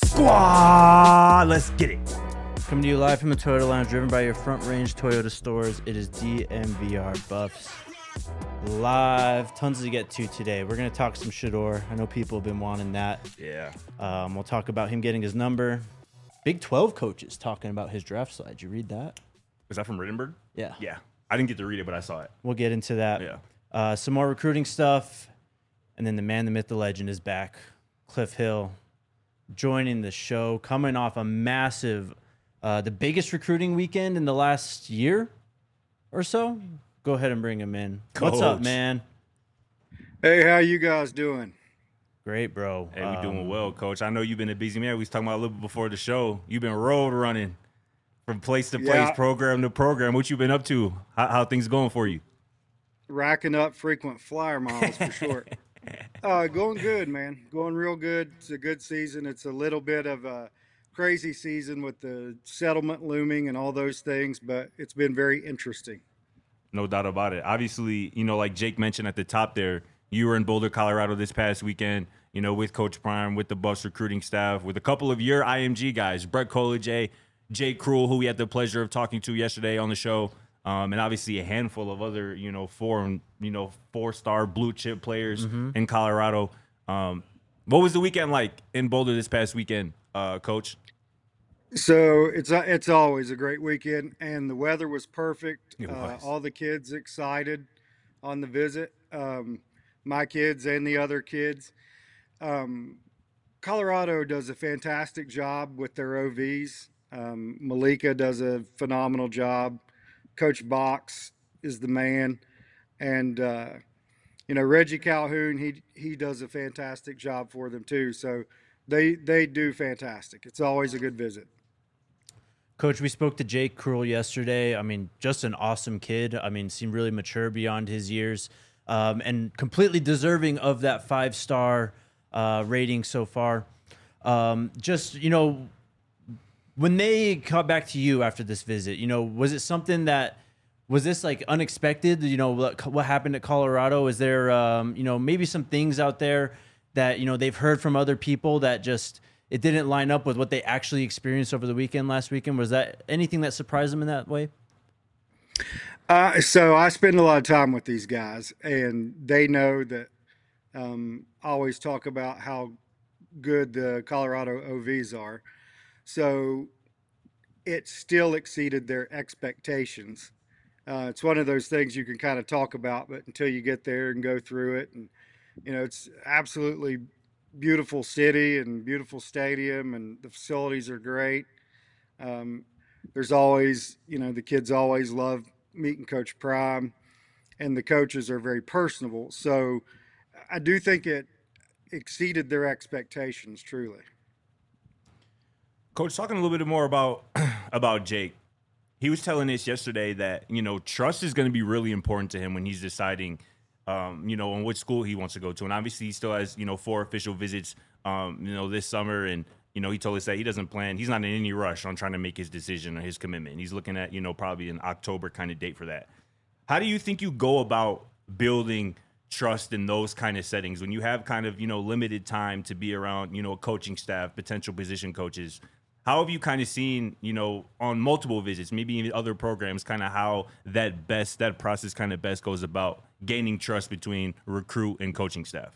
Squad. Let's get it. Coming to you live from the Toyota Lounge, driven by your Front Range Toyota stores. It is DMVR Buffs live. Tons to get to today. We're going to talk some Shedeur. I know people have been wanting that. Yeah. We'll talk about him getting his number. Big 12 coaches talking about his draft slide. Did you read that? Is that from Rittenberg? Yeah. Yeah. I didn't get to read it, but I saw it. We'll get into that. Yeah. Some more recruiting stuff. And then the man, the myth, the legend is back. Cliff Hill joining the show, coming off a massive, the biggest recruiting weekend in the last year or so. Go ahead and bring him in. Coach. What's up, man? Hey, how you guys doing? Great, bro. Hey, we doing well, Coach. I know you've been a busy man. We was talking about a little bit before the show. You've been road running from place to place, program to program. What you been up to? How things going for you? Racking up frequent flyer miles for sure. Going good, man. Going real good. It's a good season. It's a little bit of a crazy season with the settlement looming and all those things, but it's been very interesting. No doubt about it. Obviously, like Jake mentioned at the top there, you were in Boulder, Colorado this past weekend, with Coach Prime, with the Buffs recruiting staff, with a couple of your IMG guys, Brett Collier, Jake Cruel, who we had the pleasure of talking to yesterday on the show, and obviously a handful of other, four-star blue chip players in Colorado. What was the weekend like in Boulder this past weekend, Coach? So it's always a great weekend, and the weather was perfect. It was. All the kids excited on the visit. My kids and the other kids. Colorado does a fantastic job with their OVs. Malika does a phenomenal job. Coach Box is the man, and Reggie Calhoun, he does a fantastic job for them too. So they do fantastic. It's always a good visit. Coach, we spoke to Jake Cruel yesterday. I mean, just an awesome kid. I mean, seemed really mature beyond his years, and completely deserving of that 5-star rating so far. When they got back to you after this visit, was it something that was this like unexpected? What happened at Colorado? Is there, maybe some things out there that, they've heard from other people that just, it didn't line up with what they actually experienced over the weekend last weekend? Was that anything that surprised them in that way? So I spend a lot of time with these guys, and they know that I always talk about how good the Colorado OVs are. So it still exceeded their expectations. It's one of those things you can kind of talk about, but until you get there and go through it, and it's absolutely beautiful city and beautiful stadium, and the facilities are great. There's always, the kids always love meeting Coach Prime, and the coaches are very personable. So I do think it exceeded their expectations, truly. Coach, talking a little bit more about Jake, he was telling us yesterday that, trust is going to be really important to him when he's deciding, on which school he wants to go to. And obviously he still has, 4 official visits, this summer. And, he told us that he's not in any rush on trying to make his decision or his commitment. He's looking at, probably an October kind of date for that. How do you think you go about building trust in those kind of settings when you have kind of, limited time to be around, a coaching staff, potential position coaches? How have you kind of seen, on multiple visits, maybe in other programs, kind of how that process kind of best goes about gaining trust between recruit and coaching staff?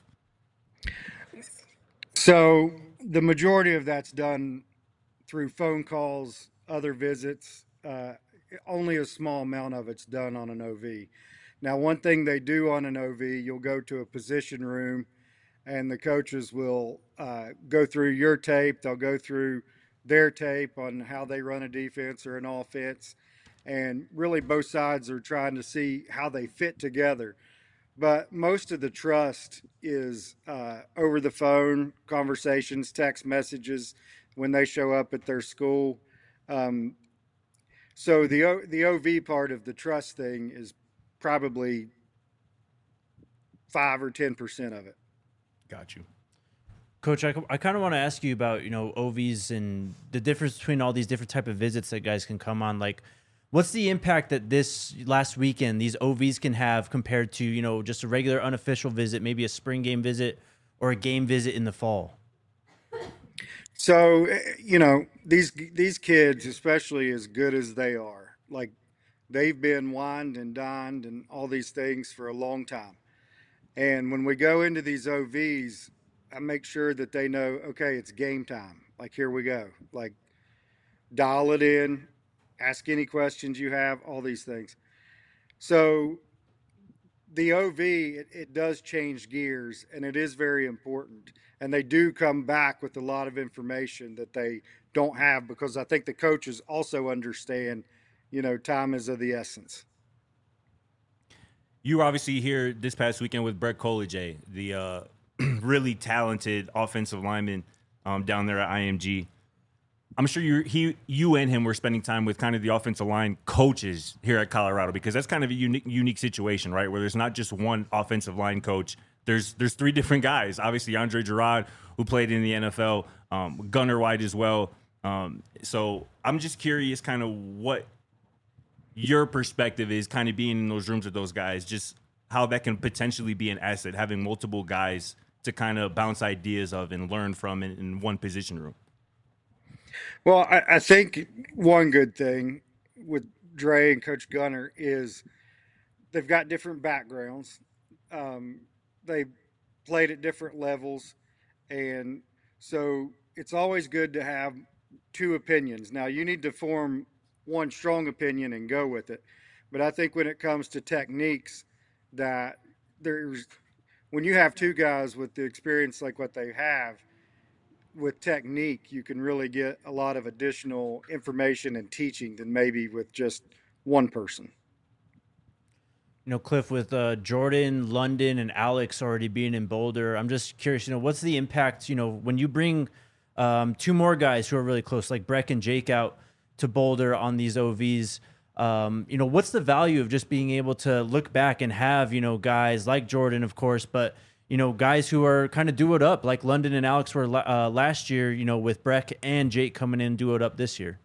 So the majority of that's done through phone calls, other visits. Only a small amount of it's done on an OV. Now, one thing they do on an OV, you'll go to a position room, and the coaches will go through your tape. They'll go through their tape on how they run a defense or an offense. And really both sides are trying to see how they fit together. But most of the trust is over the phone, conversations, text messages when they show up at their school. So the OV part of the trust thing is probably 5 or 10% of it. Got you. Coach, I kind of want to ask you about, OVs and the difference between all these different type of visits that guys can come on. Like, what's the impact that this last weekend, these OVs can have compared to, just a regular unofficial visit, maybe a spring game visit or a game visit in the fall? So, these kids, especially as good as they are, like they've been wined and dined and all these things for a long time. And when we go into these OVs, I make sure that they know, okay, it's game time. Like, here we go. Like, dial it in, ask any questions you have, all these things. So, the OV, it does change gears and it is very important. And they do come back with a lot of information that they don't have because I think the coaches also understand, time is of the essence. You were obviously here this past weekend with Brett Koleje, the really talented offensive lineman down there at IMG. I'm sure you and him were spending time with kind of the offensive line coaches here at Colorado, because that's kind of a unique situation, right? Where there's not just one offensive line coach. There's three different guys. Obviously, Andre Gerard, who played in the NFL, Gunnar White as well. So I'm just curious kind of what your perspective is kind of being in those rooms with those guys, just how that can potentially be an asset, having multiple guys to kind of bounce ideas of and learn from in one position room. Well, I think one good thing with Dre and Coach Gunner is they've got different backgrounds. They played at different levels. And so it's always good to have two opinions. Now, you need to form one strong opinion and go with it. But I think when it comes to techniques, that when you have two guys with the experience like what they have, with technique, you can really get a lot of additional information and teaching than maybe with just one person. Cliff, with Jordan, London, and Alex already being in Boulder, I'm just curious, what's the impact, when you bring two more guys who are really close, like Breck and Jake, out to Boulder on these OVs? What's the value of just being able to look back and have, guys like Jordan, of course, but guys who are kind of do it up, like London and Alex were last year, with Breck and Jake coming in do it up this year.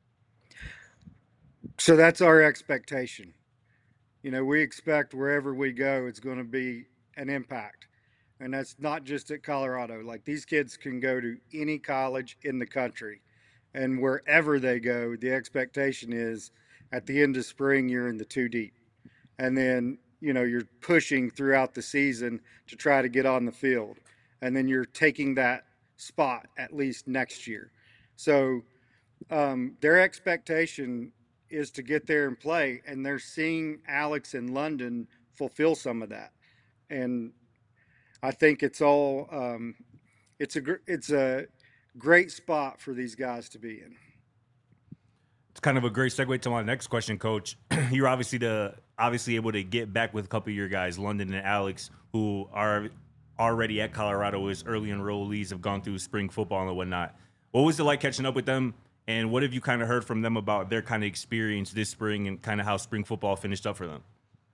So that's our expectation. We expect wherever we go, it's going to be an impact. And that's not just at Colorado. Like, these kids can go to any college in the country. And wherever they go, the expectation is at the end of spring, you're in the two deep. And then you're pushing throughout the season to try to get on the field. And then you're taking that spot at least next year. So their expectation is to get there and play. And they're seeing Alex in London fulfill some of that. And I think it's all it's a great spot for these guys to be in. It's kind of a great segue to my next question, Coach. You're obviously able to get back with a couple of your guys, London and Alex, who are already at Colorado as early enrollees, have gone through spring football and whatnot. What was it like catching up with them, and what have you kind of heard from them about their kind of experience this spring and kind of how spring football finished up for them?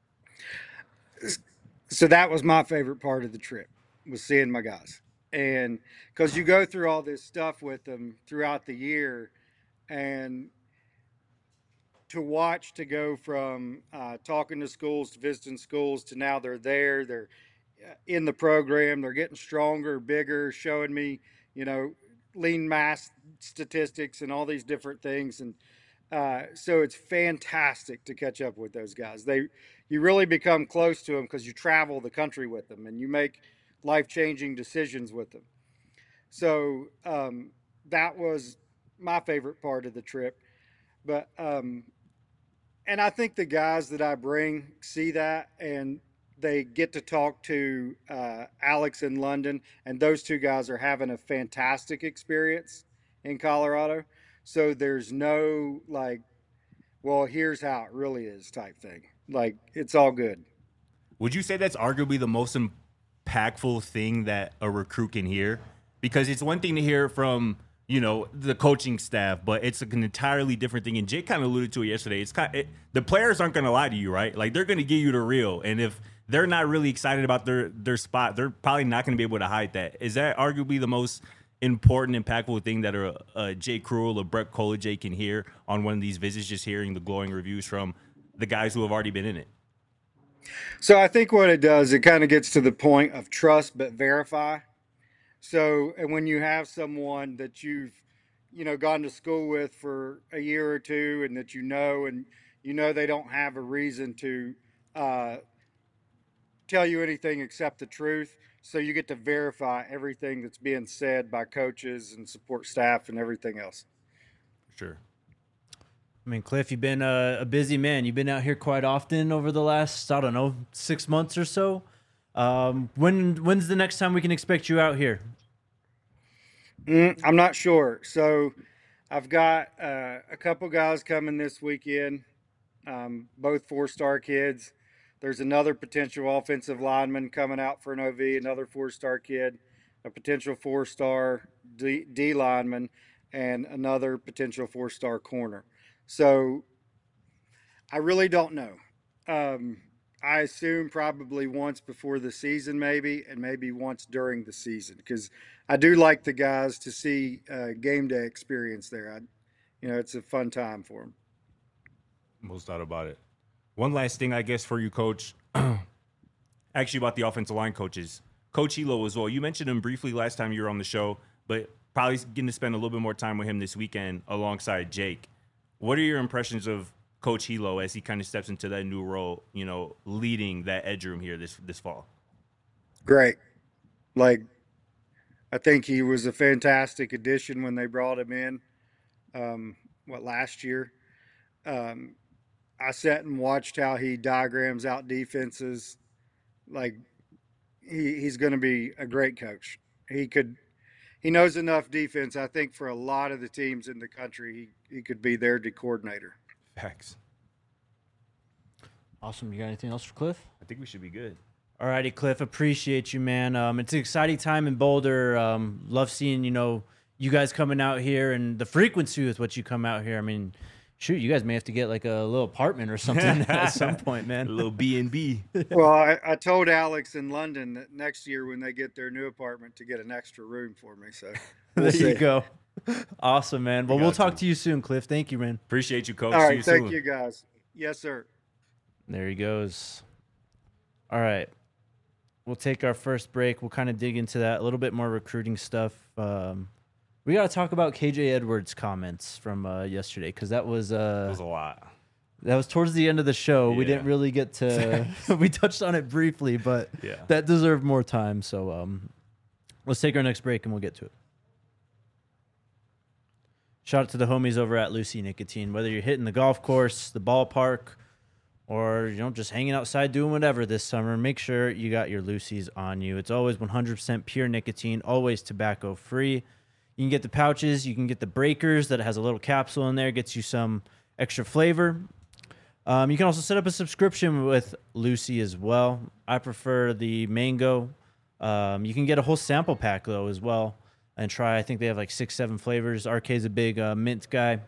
So that was my favorite part of the trip, was seeing my guys. And because you go through all this stuff with them throughout the year, and to watch, to go from talking to schools to visiting schools to now they're in the program, they're getting stronger, bigger, showing me, lean mass statistics and all these different things. And so it's fantastic to catch up with those guys. You really become close to them because you travel the country with them and you make life-changing decisions with them. So that was my favorite part of the trip. But and I think the guys that I bring see that, and they get to talk to Alex in London, and those two guys are having a fantastic experience in Colorado. So there's no well, here's how it really is type thing. Like, it's all good. Would you say that's arguably the most impactful thing that a recruit can hear? Because it's one thing to hear from the coaching staff, but it's an entirely different thing. And Jake kind of alluded to it yesterday. The players aren't going to lie to you, right? Like, they're going to give you the real. And if they're not really excited about their spot, they're probably not going to be able to hide that. Is that arguably the most important, impactful thing that a Jake Cruel or Brett Koleje can hear on one of these visits, just hearing the glowing reviews from the guys who have already been in it? So I think what it does, it kind of gets to the point of trust but verify. So, and when you have someone that you've, gone to school with for a year or two, and that and they don't have a reason to uh, tell you anything except the truth. So you get to verify everything that's being said by coaches and support staff and everything else. Sure. I mean, Cliff, you've been a busy man. You've been out here quite often over the last, I don't know, 6 months or so. When's the next time we can expect you out here? I'm not sure. So I've got a couple guys coming this weekend, both 4-star kids. There's another potential offensive lineman coming out for an OV, another 4-star kid, a potential 4-star D lineman, and another potential 4-star corner. So I really don't know. I assume probably once before the season, maybe, and maybe once during the season, because I do like the guys to see game day experience there. It's a fun time for them. Most doubt about it. One last thing, I guess, for you, Coach. Actually, about the offensive line coaches. Coach Hilo as well. You mentioned him briefly last time you were on the show, but probably getting to spend a little bit more time with him this weekend alongside Jake. What are your impressions of Coach Hilo as he kind of steps into that new role, leading that edge room here this fall? Great. I think he was a fantastic addition when they brought him in, last year. I sat and watched how he diagrams out defenses. He's going to be a great coach. He knows enough defense, I think, for a lot of the teams in the country. He could be their D coordinator. Facts. Awesome. You got anything else for Cliff? I think we should be good. All righty, Cliff. Appreciate you, man. It's an exciting time in Boulder. Love seeing, you guys coming out here and the frequency with which you come out here. I mean, shoot, you guys may have to get like a little apartment or something at some point, man. A little B&B. Well, I told Alex in London that next year when they get their new apartment to get an extra room for me. So there you go. Awesome, man. Well, we'll talk to you soon, Cliff. Thank you, man. Appreciate you, Coach. All right, see you thank soon. you, guys. Yes, sir. There he goes. All right. We'll take our first break. We'll kind of dig into that, a little bit more recruiting stuff. We got to talk about KJ Edwards' comments from yesterday, because that was a lot. That was towards the end of the show. Yeah. We didn't really get to we touched on it briefly, but that deserved more time. So let's take our next break and we'll get to it. Shout out to the homies over at Lucy Nicotine. Whether you're hitting the golf course, the ballpark, or just hanging outside doing whatever this summer, make sure you got your Lucy's on you. It's always 100% pure nicotine, always tobacco free. You can get the pouches, you can get the breakers that has a little capsule in there, gets you some extra flavor. You can also set up a subscription with Lucy as well. I prefer the mango. You can get a whole sample pack though as well and try. I think they have like 6-7 flavors. RK's a big mint guy.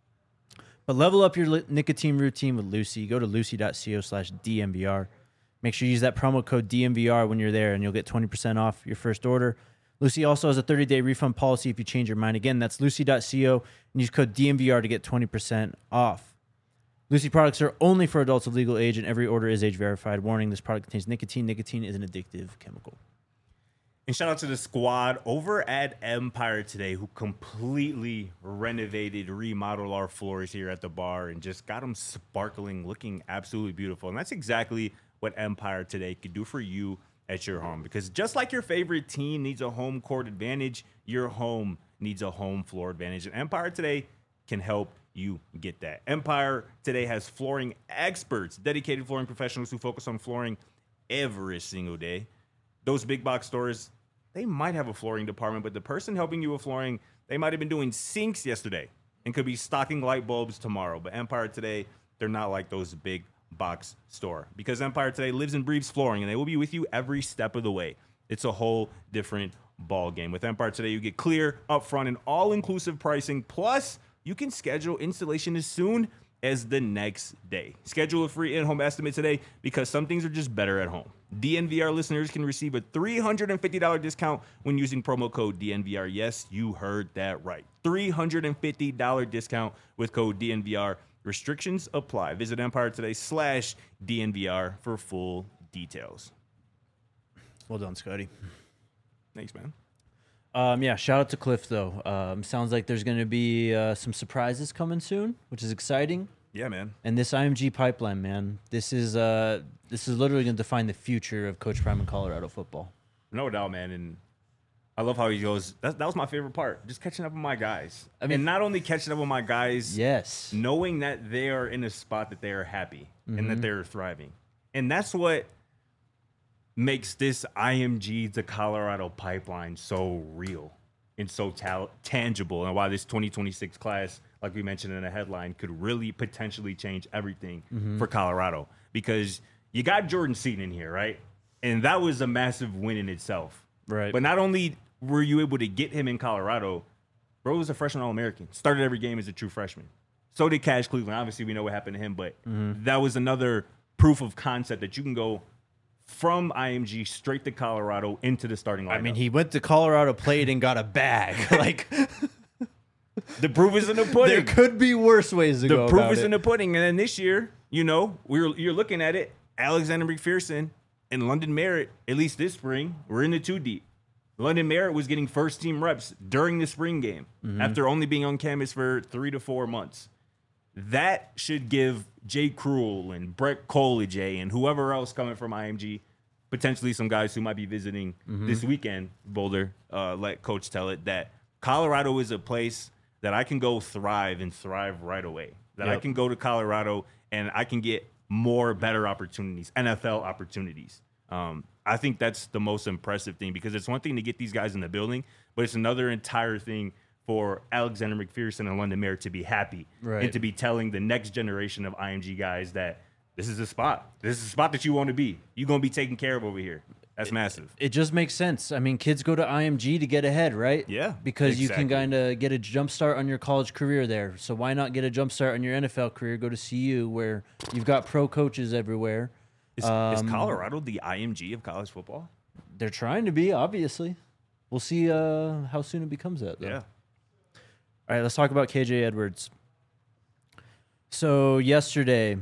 But level up your nicotine routine with Lucy. Go to lucy.co/DNVR. Make sure you use that promo code DNVR when you're there, and you'll get 20% off your first order. Lucy also has a 30-day refund policy if you change your mind. Again, that's lucy.co, and use code DNVR to get 20% off. Lucy products are only for adults of legal age, and every order is age verified. Warning, this product contains nicotine. Nicotine is an addictive chemical. And shout out to the squad over at Empire today, who completely renovated, remodeled our floors here at the bar and just got them sparkling, looking absolutely beautiful. And that's exactly what Empire today could do for you at your home. Because just like your favorite team needs a home court advantage, your home needs a home floor advantage. And Empire today can help you get that. Empire today has flooring experts, dedicated flooring professionals who focus on flooring every single day. Those big box stores, they might have a flooring department, but the person helping you with flooring, they might have been doing sinks yesterday and could be stocking light bulbs tomorrow. But Empire today, they're not like those big box store, because Empire today lives and breathes flooring, and they will be with you every step of the way. It's a whole different ball game. With Empire today, you get clear, upfront, and all-inclusive pricing. Plus, you can schedule installation as soon as the next day. Schedule a free in-home estimate today, because some things are just better at home. DNVR listeners can receive a $350 discount when using promo code DNVR. Yes, you heard that right. $350 discount with code DNVR. Restrictions apply. Visit EmpireToday/DNVR for full details. Well done, Scotty. Thanks, man. Yeah, shout out to Cliff though. Sounds like there's going to be some surprises coming soon, which is exciting. Yeah, man. And this IMG pipeline, man, this is literally going to define the future of Coach Prime in Colorado football. No doubt, man. And I love how he goes. That was my favorite part, just catching up with my guys. I mean, and not only catching up with my guys, yes, knowing that they are in a spot that they are happy and that they're thriving. And that's what makes this IMG to Colorado pipeline so real and so tangible, and why this 2026 class, like we mentioned in the headline, could really potentially change everything for Colorado. Because you got Jordan Seaton in here, right? And that was a massive win in itself. Right. But not only were you able to get him in Colorado, bro was a freshman All-American. Started every game as a true freshman. So did Cash Cleveland. Obviously, we know what happened to him, but that was another proof of concept that you can go from IMG straight to Colorado into the starting lineup. I mean, he went to Colorado, played, and got a bag. Like, the proof is in the pudding. there could be worse ways to go. The proof about is it. in the pudding. And then this year, you know, you're looking at it. Alexander McPherson and London Merritt, at least this spring, we're in the 2 deep. London Merritt was getting first team reps during the spring game after only being on campus for 3 to 4 months. That should give Jay Cruel and Brett Collegier and whoever else coming from IMG, potentially some guys who might be visiting this weekend, Boulder, let Coach tell it, that Colorado is a place that I can go thrive and thrive right away. That I can go to Colorado and I can get better opportunities, NFL opportunities. I think that's the most impressive thing, because it's one thing to get these guys in the building, but it's another entire thing for Alexander McPherson and London Merritt to be happy and to be telling the next generation of IMG guys that this is a spot. This is a spot that you want to be. You're going to be taken care of over here. That's massive. It just makes sense. I mean, kids go to IMG to get ahead, right? Yeah, Because you can exactly. kind of get a jump start on your college career there. So why not get a jump start on your NFL career? Go to CU, where you've got pro coaches everywhere. Is Colorado the IMG of college football? They're trying to be, obviously. We'll see how soon it becomes that, though. Yeah. All right, let's talk about KJ Edwards. So yesterday,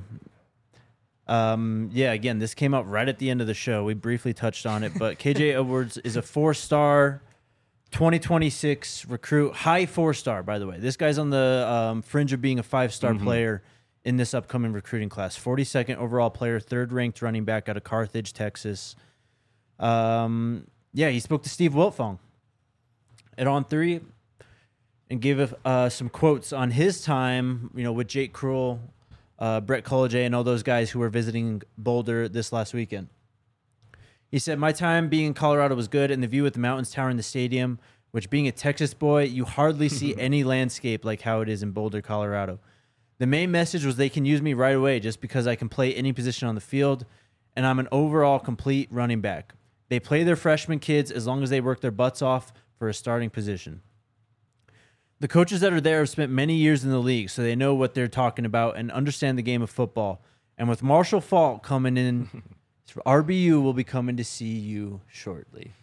again, this came out right at the end of the show. We briefly touched on it, but KJ Edwards is a 4-star 2026 recruit, high 4-star, by the way. This guy's on the fringe of being a 5-star player in this upcoming recruiting class. 42nd overall player, 3rd-ranked running back out of Carthage, Texas. He spoke to Steve Wiltfong at On3 and gave some quotes on his time, with Jake Cruel, Brett Collegier, and all those guys who were visiting Boulder this last weekend. He said, "My time being in Colorado was good, and the view with the mountains towering the stadium, which being a Texas boy, you hardly see any landscape like how it is in Boulder, Colorado. The main message was they can use me right away just because I can play any position on the field, and I'm an overall complete running back. They play their freshman kids as long as they work their butts off for a starting position. The coaches that are there have spent many years in the league, so they know what they're talking about and understand the game of football. And with Marshall Faulk coming in, RBU will be coming to see you shortly."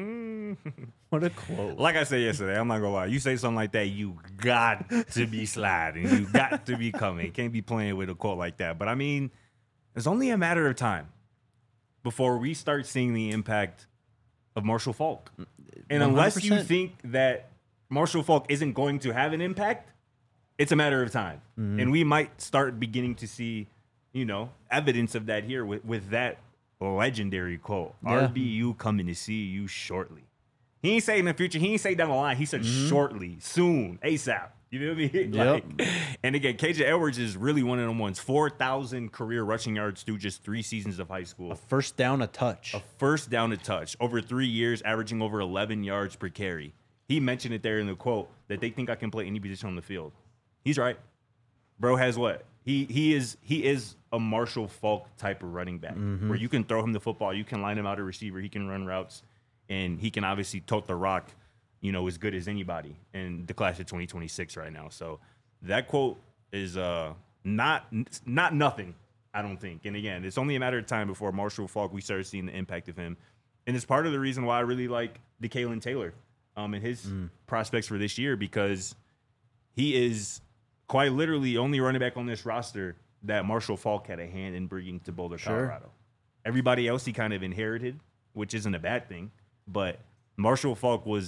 What a quote. Like I said yesterday, I'm not going to lie. You say something like that, you got to be sliding. You got to be coming. Can't be playing with a quote like that. But, I mean, it's only a matter of time before we start seeing the impact of Marshall Faulk. And unless you 100%. think that Marshall Faulk isn't going to have an impact, it's a matter of time. And we might start beginning to see, evidence of that here with that legendary quote. Yeah. RBU coming to see you shortly. He ain't say in the future. He ain't say down the line. He said shortly, soon, ASAP. You know what I mean? Yep. And again, KJ Edwards is really one of them ones. 4,000 career rushing yards through just 3 seasons of high school. First down, a touch. First down a touch. Over 3 years, averaging over 11 yards per carry. He mentioned it there in the quote that they think I can play any position on the field. He's right. Bro has what? He is a Marshall Faulk type of running back where you can throw him the football, you can line him out a receiver, he can run routes, and he can obviously tote the rock, as good as anybody in the class of 2026 right now. So that quote is not nothing, I don't think. And again, it's only a matter of time before Marshall Faulk, we start seeing the impact of him. And it's part of the reason why I really like DeKalen Taylor and his prospects for this year, because he is quite literally only running back on this roster that Marshall Faulk had a hand in bringing to Boulder, Colorado. Everybody else he kind of inherited, which isn't a bad thing. But Marshall Faulk was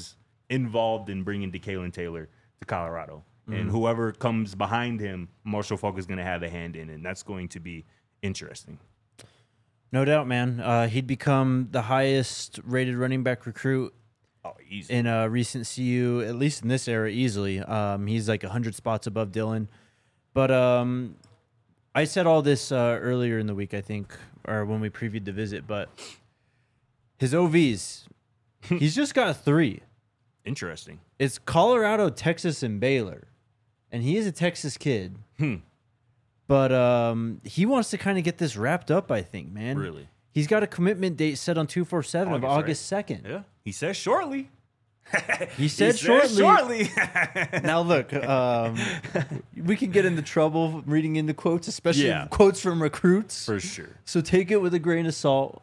involved in bringing DeKalen Taylor to Colorado. And whoever comes behind him, Marshall Faulk is going to have a hand in, and that's going to be interesting. No doubt, man. He'd become the highest rated running back recruit Easy. in recent CU, at least in this era, easily. He's like 100 spots above Dylan. But I said all this earlier in the week, I think, or when we previewed the visit, but his OVs, he's just got 3. Interesting. It's Colorado, Texas, and Baylor. And he is a Texas kid. But he wants to kind of get this wrapped up, I think, man. Really? He's got a commitment date set on 247 of August 2nd. Yeah. He says shortly. He said shortly. Shortly. Now, look, we can get into trouble reading into quotes, especially quotes from recruits. For sure. So take it with a grain of salt.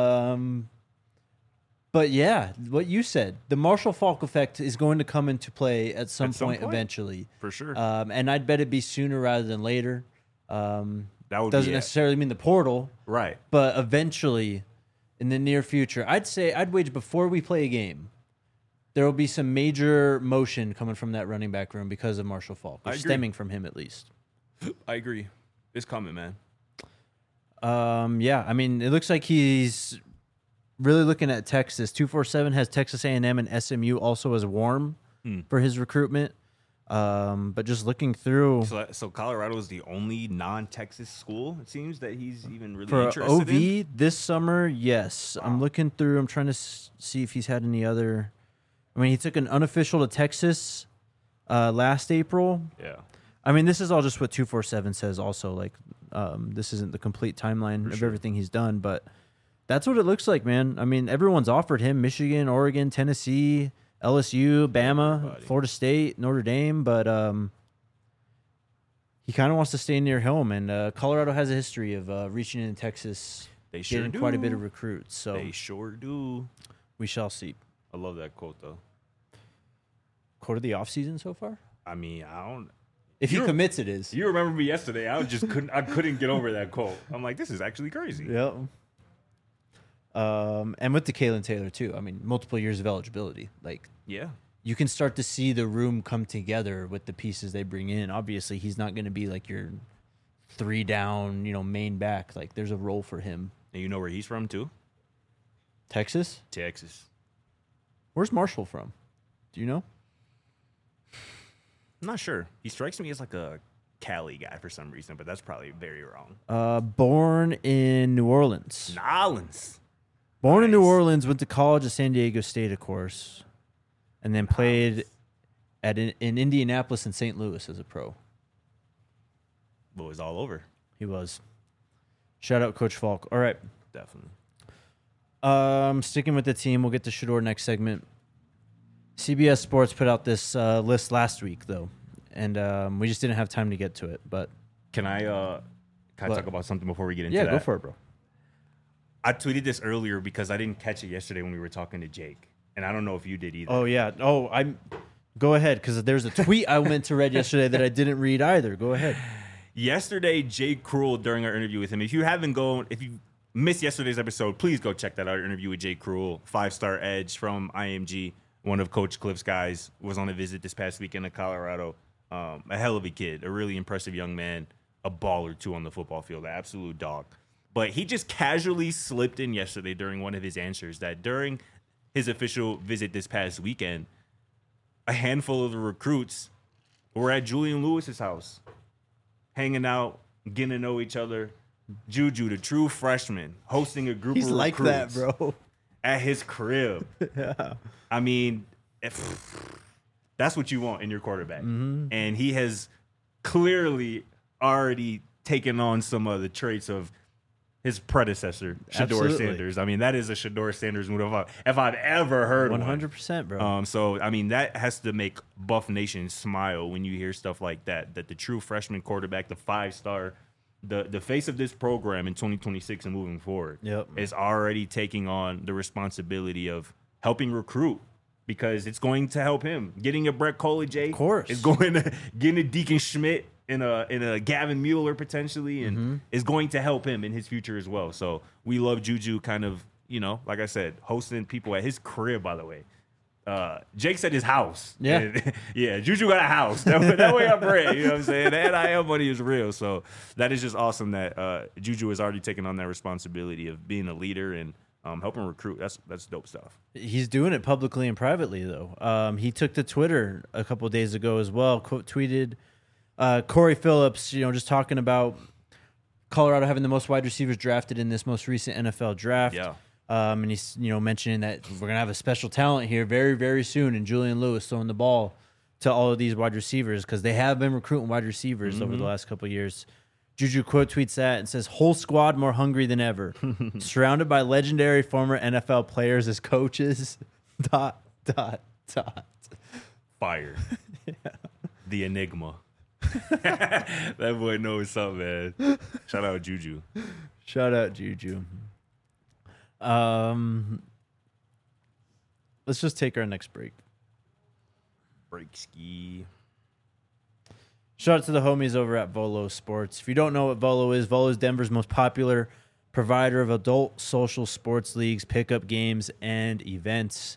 But yeah, what you said, the Marshall Faulk effect is going to come into play at some point eventually. For sure. And I'd bet it'd be sooner rather than later. That would doesn't necessarily mean the portal, right? But eventually, in the near future, I'd wager before we play a game, there will be some major motion coming from that running back room because of Marshall Faulk, or stemming from him at least. I agree. It's coming, man. Yeah, I mean, it looks like he's really looking at Texas. 247 has Texas A&M and SMU also as warm for his recruitment. But just looking through, so Colorado is the only non-Texas school, it seems, that he's even really for interested OV in. this summer. Yes, wow. I'm looking through. I'm trying to see if he's had any other. I mean, he took an unofficial to Texas last April. Yeah. I mean, this is all just what 247 says. Also, like, this isn't the complete timeline of everything he's done, but that's what it looks like, man. I mean, everyone's offered him Michigan, Oregon, Tennessee, LSU, Bama, Florida State, Notre Dame, but he kind of wants to stay near home. And Colorado has a history of reaching in Texas, getting quite a bit of recruits. So they sure do. We shall see. I love that quote, though. Quote of the offseason so far? I mean, I don't. If he commits, it is. You remember me yesterday? I couldn't get over that quote. I'm like, this is actually crazy. Yep. And with DeKalen Taylor too. I mean, multiple years of eligibility. Like, yeah, you can start to see the room come together with the pieces they bring in. Obviously, he's not going to be like your 3 down, main back. Like, there's a role for him. And you know where he's from too? Texas. Where's Marshall from? Do you know? I'm not sure. He strikes me as like a Cali guy for some reason, but that's probably very wrong. Born in New Orleans. Born in New Orleans, went to college at San Diego State, of course, and then played in Indianapolis and St. Louis as a pro. But was all over. He was. Shout out Coach Faulk. All right. Definitely. Sticking with the team, we'll get to Shedeur next segment. CBS Sports put out this list last week, though, and we just didn't have time to get to it. But can I talk about something before we get into that? Yeah, go for it, bro. I tweeted this earlier because I didn't catch it yesterday when we were talking to Jake, and I don't know if you did either. Oh yeah. Go ahead, because there's a tweet I went to read yesterday that I didn't read either. Go ahead. Yesterday, Jake Cruel, during our interview with him, if you missed yesterday's episode, please go check that out. Our interview with Jake Cruel, 5-star edge from IMG, one of Coach Cliff's guys, was on a visit this past weekend to Colorado. A hell of a kid, a really impressive young man, a baller too on the football field, an absolute dog. But he just casually slipped in yesterday during one of his answers that during his official visit this past weekend, a handful of the recruits were at Julian Lewis's house, hanging out, getting to know each other. Juju, the true freshman, hosting a group of recruits. He's like that, bro. At his crib. Yeah. I mean, that's what you want in your quarterback. Mm-hmm. And he has clearly already taken on some of the traits of his predecessor, Shedeur Sanders. I mean, that is a Shedeur Sanders move if I've ever heard 100%, bro. So, I mean, that has to make Buff Nation smile when you hear stuff like that the true freshman quarterback, the 5-star, the face of this program in 2026 and moving forward is already taking on the responsibility of helping recruit, because it's going to help him. Getting a Brett Collier, of course, is going to getting a Deacon Schmidt in a Gavin Mueller potentially, and is going to help him in his future as well. So we love Juju kind of, like I said, hosting people at his crib, by the way. Jake said his house. Yeah. And, yeah, Juju got a house. That way I'm ready. You know what I'm saying? The NIL money is real. So that is just awesome that Juju has already taken on that responsibility of being a leader and helping recruit. That's dope stuff. He's doing it publicly and privately, though. He took to Twitter a couple of days ago as well, tweeted Corey Phillips, just talking about Colorado having the most wide receivers drafted in this most recent NFL draft. Yeah. And he's, mentioning that we're going to have a special talent here very, very soon, and Julian Lewis throwing the ball to all of these wide receivers because they have been recruiting wide receivers over the last couple of years. Juju quote tweets that and says, "Whole squad more hungry than ever, surrounded by legendary former NFL players as coaches." ... Fire. Yeah. The Enigma. That boy knows something, man. Shout out Juju. Shout out Juju. Let's just take our next break. Break ski. Shout out to the homies over at Volo Sports. If you don't know what Volo is Denver's most popular provider of adult social sports leagues, pickup games, and events.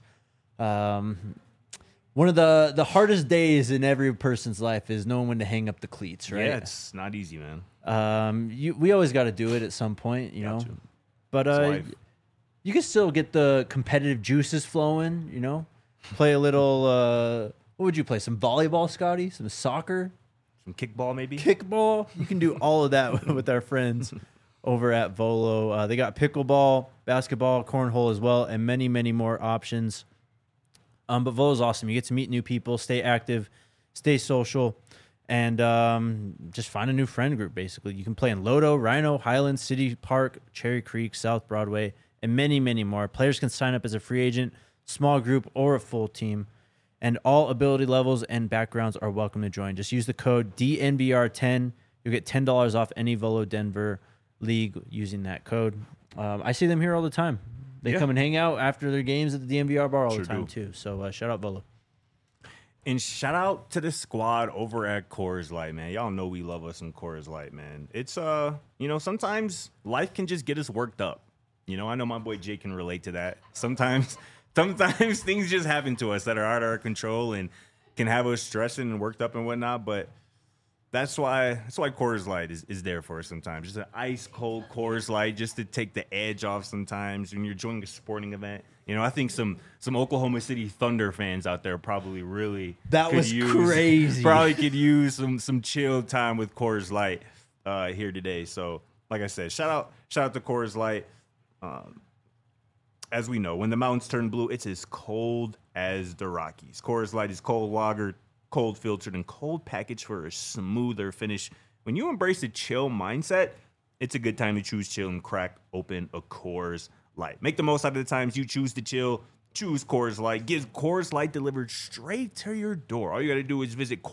One of the hardest days in every person's life is knowing when to hang up the cleats, right? Yeah, it's not easy, man. We always got to do it at some point, you know. To. But you can still get the competitive juices flowing, Play a little. What would you play? Some volleyball, Scotty? Some soccer? Some kickball, maybe? Kickball. You can do all of that with our friends over at Volo. They got pickleball, basketball, cornhole as well, and many, many more options. But Volo's awesome. You get to meet new people, stay active, stay social, and just find a new friend group, basically. You can play in Lodo, Rhino, Highland, City Park, Cherry Creek, South Broadway, and many, many more. Players can sign up as a free agent, small group, or a full team. And all ability levels and backgrounds are welcome to join. Just use the code DNVR10. You'll get $10 off any Volo Denver league using that code. I see them here all the time. They come and hang out after their games at the DNVR bar all the time, too. So shout out Volo. And shout out to the squad over at Coors Light, man. Y'all know we love us some Coors Light, man. It's, sometimes life can just get us worked up. I know my boy Jake can relate to that. Sometimes things just happen to us that are out of our control and can have us stressing and worked up and whatnot. But that's why Coors Light is there for us sometimes. Just an ice cold Coors Light just to take the edge off sometimes when you're joining a sporting event. I think some Oklahoma City Thunder fans out there probably really crazy. Probably could use some chill time with Coors Light here today. So like I said, shout out to Coors Light. As we know, when the mountains turn blue, it's as cold as the Rockies. Coors Light is cold lagered, cold filtered, and cold packaged for a smoother finish. When you embrace a chill mindset, it's a good time to choose chill and crack open a Coors Light. Make the most out of the times you choose to chill. Choose Coors Light. Get Coors Light delivered straight to your door. All you got to do is visit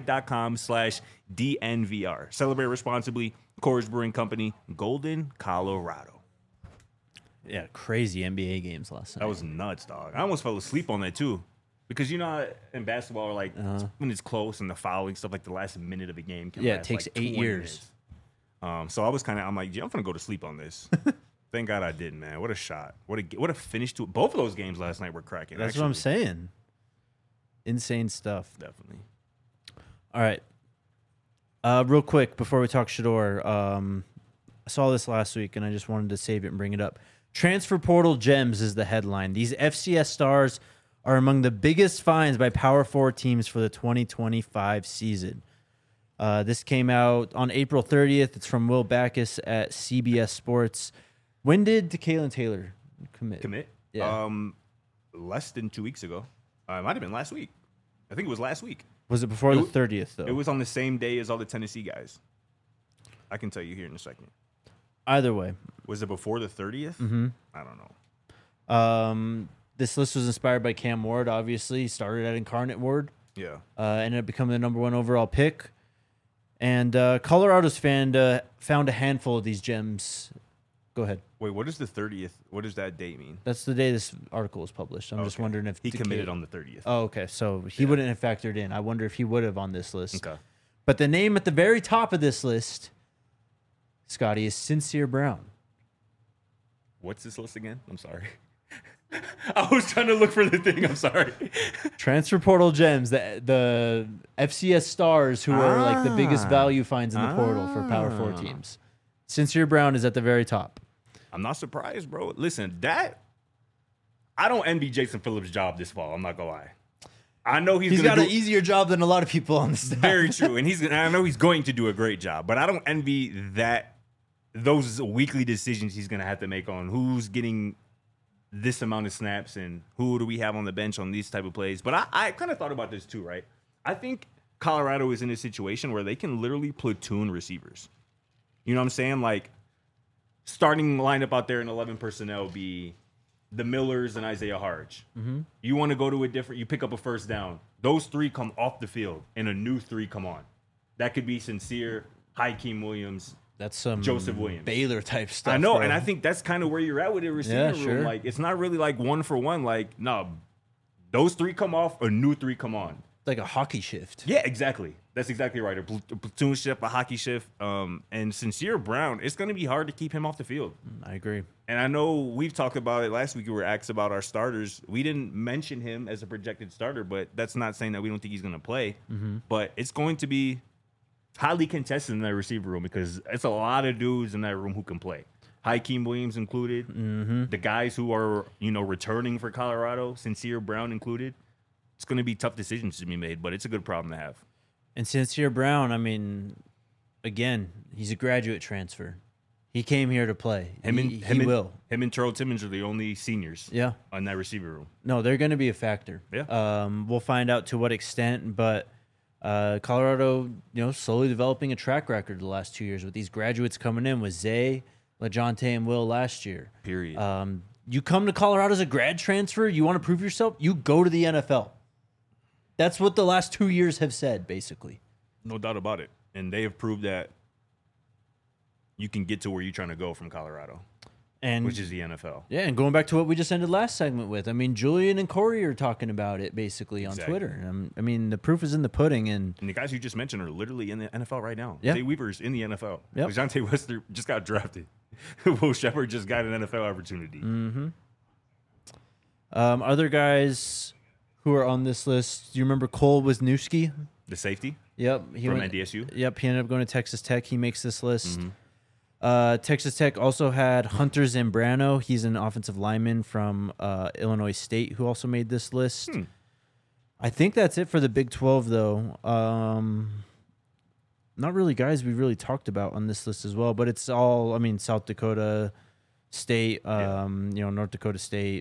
CoorsLight.com/DNVR. Celebrate responsibly. Coors Brewing Company, Golden, Colorado. Yeah, crazy NBA games last night. That was nuts, dog. I almost fell asleep on that, too. Because, in basketball, like, when it's close and the fouling stuff, like the last minute of a game can last, it takes like 8 years. So I was I'm like, I'm going to go to sleep on this. Thank God I didn't, man. What a shot. What a finish to it. Both of those games last night were cracking. That's what I'm saying. Insane stuff. Definitely. All right. Real quick, before we talk Shedeur, I saw this last week, and I just wanted to save it and bring it up. Transfer Portal Gems is the headline. These FCS stars are among the biggest finds by Power 4 teams for the 2025 season. This came out on April 30th. It's from Will Backus at CBS Sports. When did Kalen Taylor commit? Yeah. Less than 2 weeks ago. It might have been last week. I think it was last week. Was it before the 30th, though? It was on the same day as all the Tennessee guys. I can tell you here in a second. Either way. Was it before the 30th? Mm-hmm. I don't know. This list was inspired by Cam Ward, obviously. He started at Incarnate Ward. Yeah. Ended up becoming the #1 overall pick. And Colorado's found a handful of these gems. Go ahead. Wait, what is the 30th? What does that date mean? That's the day this article was published. I'm just wondering if he committed on the 30th. Oh, okay. So he wouldn't have factored in. I wonder if he would have on this list. Okay. But the name at the very top of this list, Scotty, is Sincere Brown. What's this list again? I'm sorry. I was trying to look for the thing. I'm sorry. Transfer portal gems, the FCS stars who are like the biggest value finds in the portal for Power 4 teams. Sincere Brown is at the very top. I'm not surprised, bro. Listen, I don't envy Jason Phillips' job this fall. I'm not gonna lie. I know he's got an easier job than a lot of people on the staff. Very true, and I know he's going to do a great job. But I don't envy those weekly decisions he's gonna have to make on who's getting this amount of snaps and who do we have on the bench on these type of plays. But I kind of thought about this too, right? I think Colorado is in a situation where they can literally platoon receivers. You know what I'm saying? Like, starting lineup out there in 11 personnel be the Millers and Isaiah Harge. Mm-hmm. You want to go to you pick up a first down. Those 3 come off the field and a new 3 come on. That could be Sincere, Hakeem Williams. That's some Joseph Williams. Baylor type stuff. I know, bro. and I think that's kind of where you're at with the receiver room. Sure. Like, it's not really like 1 for 1. Like, no, those 3 come off, a new 3 come on. Like a hockey shift. Yeah, exactly. That's exactly right. A platoon shift, a hockey shift. And Sincere Brown, it's going to be hard to keep him off the field. I agree. And I know we've talked about it last week. We were asked about our starters. We didn't mention him as a projected starter, but that's not saying that we don't think he's going to play. Mm-hmm. But it's going to be highly contested in that receiver room because it's a lot of dudes in that room who can play. Hakeem Williams included. Mm-hmm. The guys who are, returning for Colorado, Sincere Brown included. It's going to be tough decisions to be made, but it's a good problem to have. And Sincere Brown, I mean, again, he's a graduate transfer. He came here to play. He will. Him and Terrell Timmons are the only seniors on that receiver room. No, they're going to be a factor. Yeah. We'll find out to what extent, but Colorado, slowly developing a track record the last 2 years with these graduates coming in with Zay, LaJonte, and Will last year. Period. You come to Colorado as a grad transfer, you want to prove yourself, you go to the NFL. That's what the last 2 years have said, basically. No doubt about it. And they have proved that you can get to where you're trying to go from Colorado, which is the NFL. Yeah, and going back to what we just ended last segment with, I mean, Julian and Corey are talking about it basically on Twitter. I mean, the proof is in the pudding. And the guys you just mentioned are literally in the NFL right now. Yeah. Zay Weaver's in the NFL. Yep. DeJounte Wester just got drafted. Will Shepard just got an NFL opportunity. Mm-hmm. Other guys who are on this list, do you remember Cole Wisniewski? The safety? Yep. From NDSU? Yep, he ended up going to Texas Tech. He makes this list. Texas Tech also had Hunter Zambrano. He's an offensive lineman from Illinois State who also made this list. I think that's it for the Big 12, though. Not really guys we really talked about on this list as well, but it's all, I mean, South Dakota State, North Dakota State.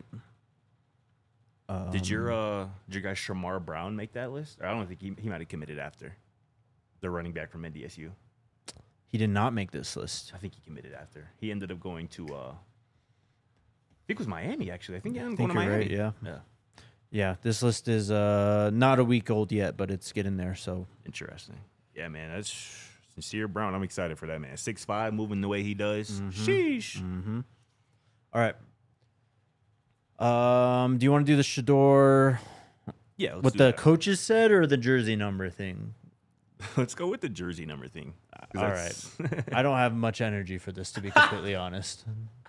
Did your guy Shamar Brown make that list? Or I don't think he might have committed after the running back from NDSU. He did not make this list. I think he committed after. He ended up going to, I think it was Miami, actually. I think he ended up going to Miami. Right, yeah. Yeah, this list is not a week old yet, but it's getting there. So interesting. Yeah, man, that's Sincere Brown. I'm excited for that, man. 6'5", moving the way he does. Sheesh. Mm-hmm. All right. Do you want to do the Shedeur? Yeah, what the coaches said or the jersey number thing? Let's go with the jersey number thing. All right. I don't have much energy for this, to be completely honest.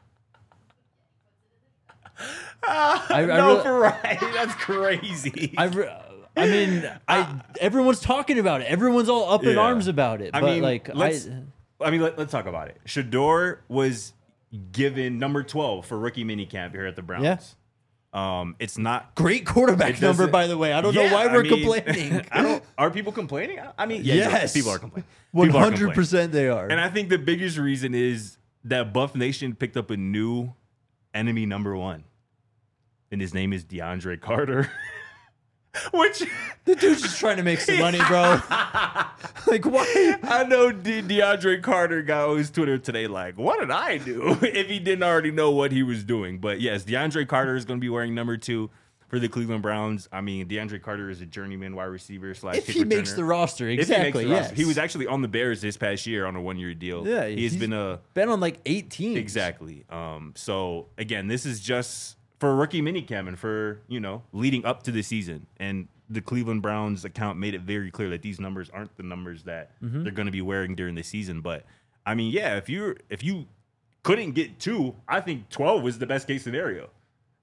Right. That's crazy. Everyone's talking about it. Everyone's all up in arms about it. Let's talk about it. Shedeur was given number 12 for rookie minicamp here at the Browns. Yeah. It's not great quarterback number, by the way. I don't know why we're complaining. Are people complaining? I mean, yes, people are complaining. 100% they are. And I think the biggest reason is that Buff Nation picked up a new enemy number 1, and his name is DeAndre Carter. Which the dude's just trying to make some money, bro. Like, why? I know DeAndre Carter got on his Twitter today like, what did I do? If he didn't already know what he was doing. But yes, DeAndre Carter is going to be wearing number 2 for the Cleveland Browns. I mean, DeAndre Carter is a journeyman wide receiver / kick returner. If he makes the roster, exactly. Yes. He was actually on the Bears this past year on a 1-year deal. Yeah, he's been on like 8 teams. Exactly. So again, this is just for a rookie minicamp and for, leading up to the season. And the Cleveland Browns account made it very clear that these numbers aren't the numbers that they're going to be wearing during the season. But I mean, yeah, if you couldn't get 2, I think 12 was the best case scenario.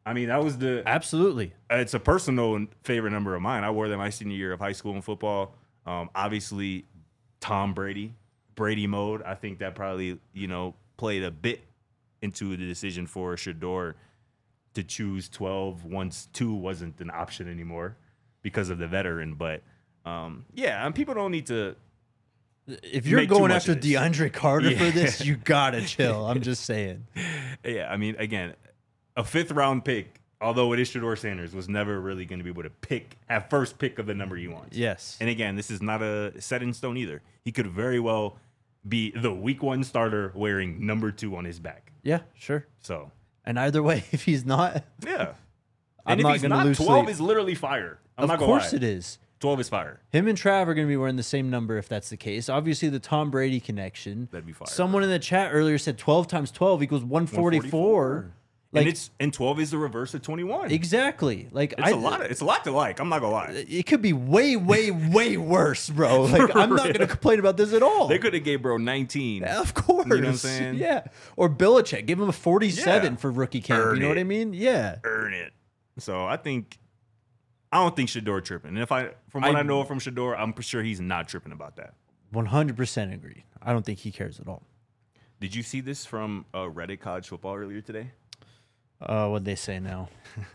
I mean, that was Absolutely. it's a personal favorite number of mine. I wore them my senior year of high school in football. Obviously, Tom Brady mode. I think that probably, played a bit into the decision for Shedeur to choose 12 once 2 wasn't an option anymore because of the veteran. But, and people don't need to. If you're make too going much after of this. DeAndre Carter for Yeah. this, you gotta chill. I'm just saying. Yeah, I mean, again, a 5th round pick, although it is Shedeur Sanders, was never really going to be able to have first pick of the number he wants. Yes. And again, this is not a set in stone either. He could very well be the week 1 starter wearing number 2 on his back. Yeah, sure. So, And either way, if he's not, yeah. I'm And if not he's gonna not, lose 12 sleep. is literally fire. I'm not Of gonna course lie. it is. 12 is fire. Him and Trav are going to be wearing the same number if that's the case. Obviously, the Tom Brady connection. That'd be fire. Someone in the chat earlier said 12 times 12 equals 144. Like, And 12 is the reverse of 21. exactly. Like It's a lot to like. I'm not gonna lie. It could be way, way, way worse, bro. Like I'm not going to complain about this at all. They could have gave bro 19. Of course. You know what I'm saying? Yeah. Or Belichick. Give him a 47 Yeah. for rookie camp. Earn you know what it. I mean? Yeah. Earn it. So I don't think Shedeur tripping. And from what I know from Shedeur, I'm sure he's not tripping about that. 100% agree. I don't think he cares at all. Did you see this from Reddit College Football earlier today? What'd they say now?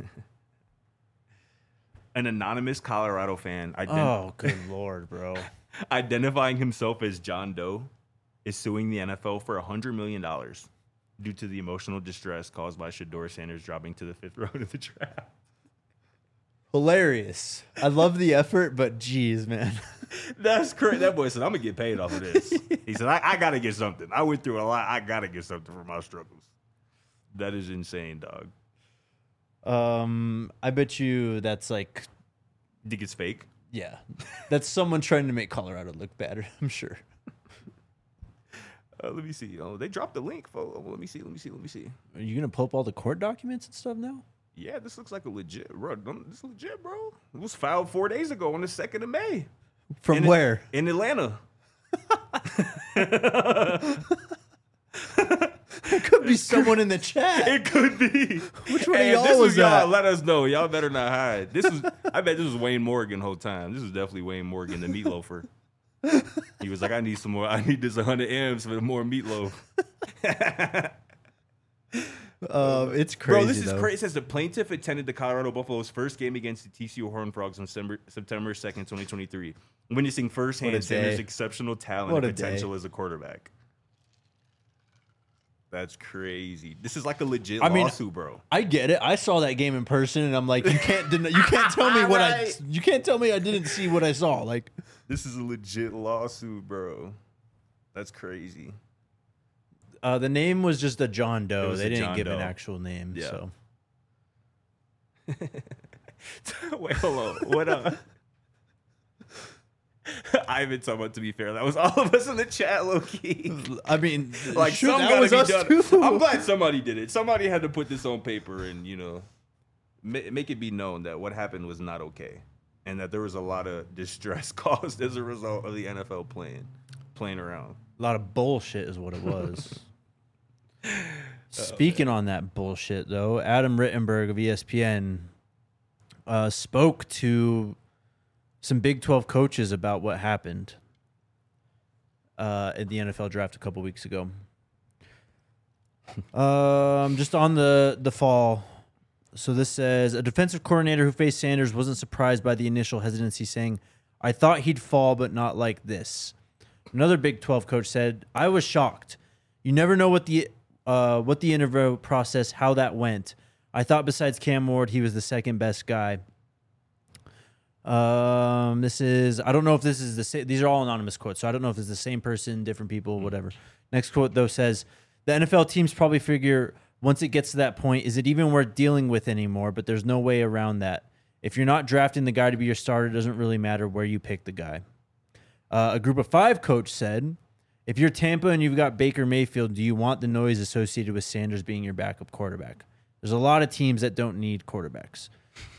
An anonymous Colorado fan Oh, good Lord, bro. identifying himself as John Doe is suing the NFL for $100 million due to the emotional distress caused by Shedeur Sanders dropping to the 5th round of the draft. Hilarious. I love the effort, but geez, man. That's correct. That boy said, I'm going to get paid off of this. He said, I got to get something. I went through a lot. I got to get something for my struggles. That is insane, dog. I bet you that's like, Think it's fake? yeah, that's someone trying to make Colorado look better. I'm sure. Let me see. Oh, they dropped the link. Let me see. Are you gonna pull up all the court documents and stuff now? Yeah, this looks like a legit, bro. This is legit, bro. It was filed 4 days ago on the 2nd of May. From where? In Atlanta. There could be someone in the chat. It could be. Which one And of this y'all was y'all. that? Let us know. Y'all better not hide. I bet this was Wayne Morgan the whole time. This is definitely Wayne Morgan, the meatloafer. He was like, I need some more. I need this 100 M's for more meatloaf. It's crazy, Bro, this is though. crazy. It says the plaintiff attended the Colorado Buffaloes' first game against the TCU Horned Frogs on September 2nd, 2023, witnessing What firsthand a Sanders' day. exceptional talent What and a day. potential as a quarterback. That's crazy. This is like a legit I mean, lawsuit, bro. I get it. I saw that game in person, and I'm like, you can't tell me what Right. you can't tell me I didn't see what I saw. Like, This is a legit lawsuit, bro. That's crazy. the name was just a John It Doe. was They a didn't John give an Doe. actual name. Yeah. So Wait, hold on. What Ivan talking about, to be fair, that was all of us in the chat, low key. I mean, Like, shoot, some that gotta was be us done. too. I'm glad somebody did it. Somebody had to put this on paper and, make it be known that what happened was not okay. And that there was a lot of distress caused as a result of the NFL playing around. A lot of bullshit is what it was. Speaking on that bullshit, though, Adam Rittenberg of E ESPN spoke to some Big 12 coaches about what happened in the NFL draft a couple weeks ago. Just on the fall. So this says, a defensive coordinator who faced Sanders wasn't surprised by the initial hesitancy, saying, I thought he'd fall, but not like this. Another Big 12 coach said, I was shocked. You never know what the interview process, how that went. I thought besides Cam Ward, he was the second best guy. This is, I don't know if this is the same. These are all anonymous quotes, so I don't know if it's the same person, different people, whatever. Next quote, though, says, the NFL teams probably figure once it gets to that point, is it even worth dealing with anymore? But there's no way around that. If you're not drafting the guy to be your starter, it doesn't really matter where you pick the guy. A group of 5 coach said, if you're Tampa and you've got Baker Mayfield, do you want the noise associated with Sanders being your backup quarterback? There's a lot of teams that don't need quarterbacks.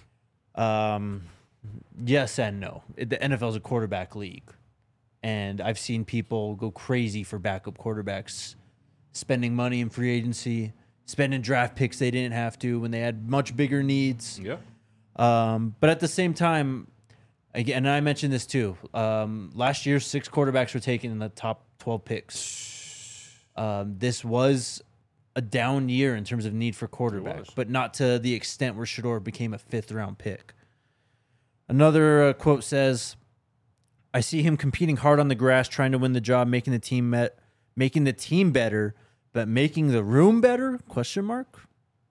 Yes and no. The NFL is a quarterback league. And I've seen people go crazy for backup quarterbacks, spending money in free agency, spending draft picks they didn't have to when they had much bigger needs. Yeah. But at the same time, again, and I mentioned this too. Last year, 6 quarterbacks were taken in the top 12 picks. This was a down year in terms of need for quarterback, but not to the extent where Shedeur became a 5th-round pick. Another quote says, "I see him competing hard on the grass, trying to win the job, making the team better, but making the room better? Question mark.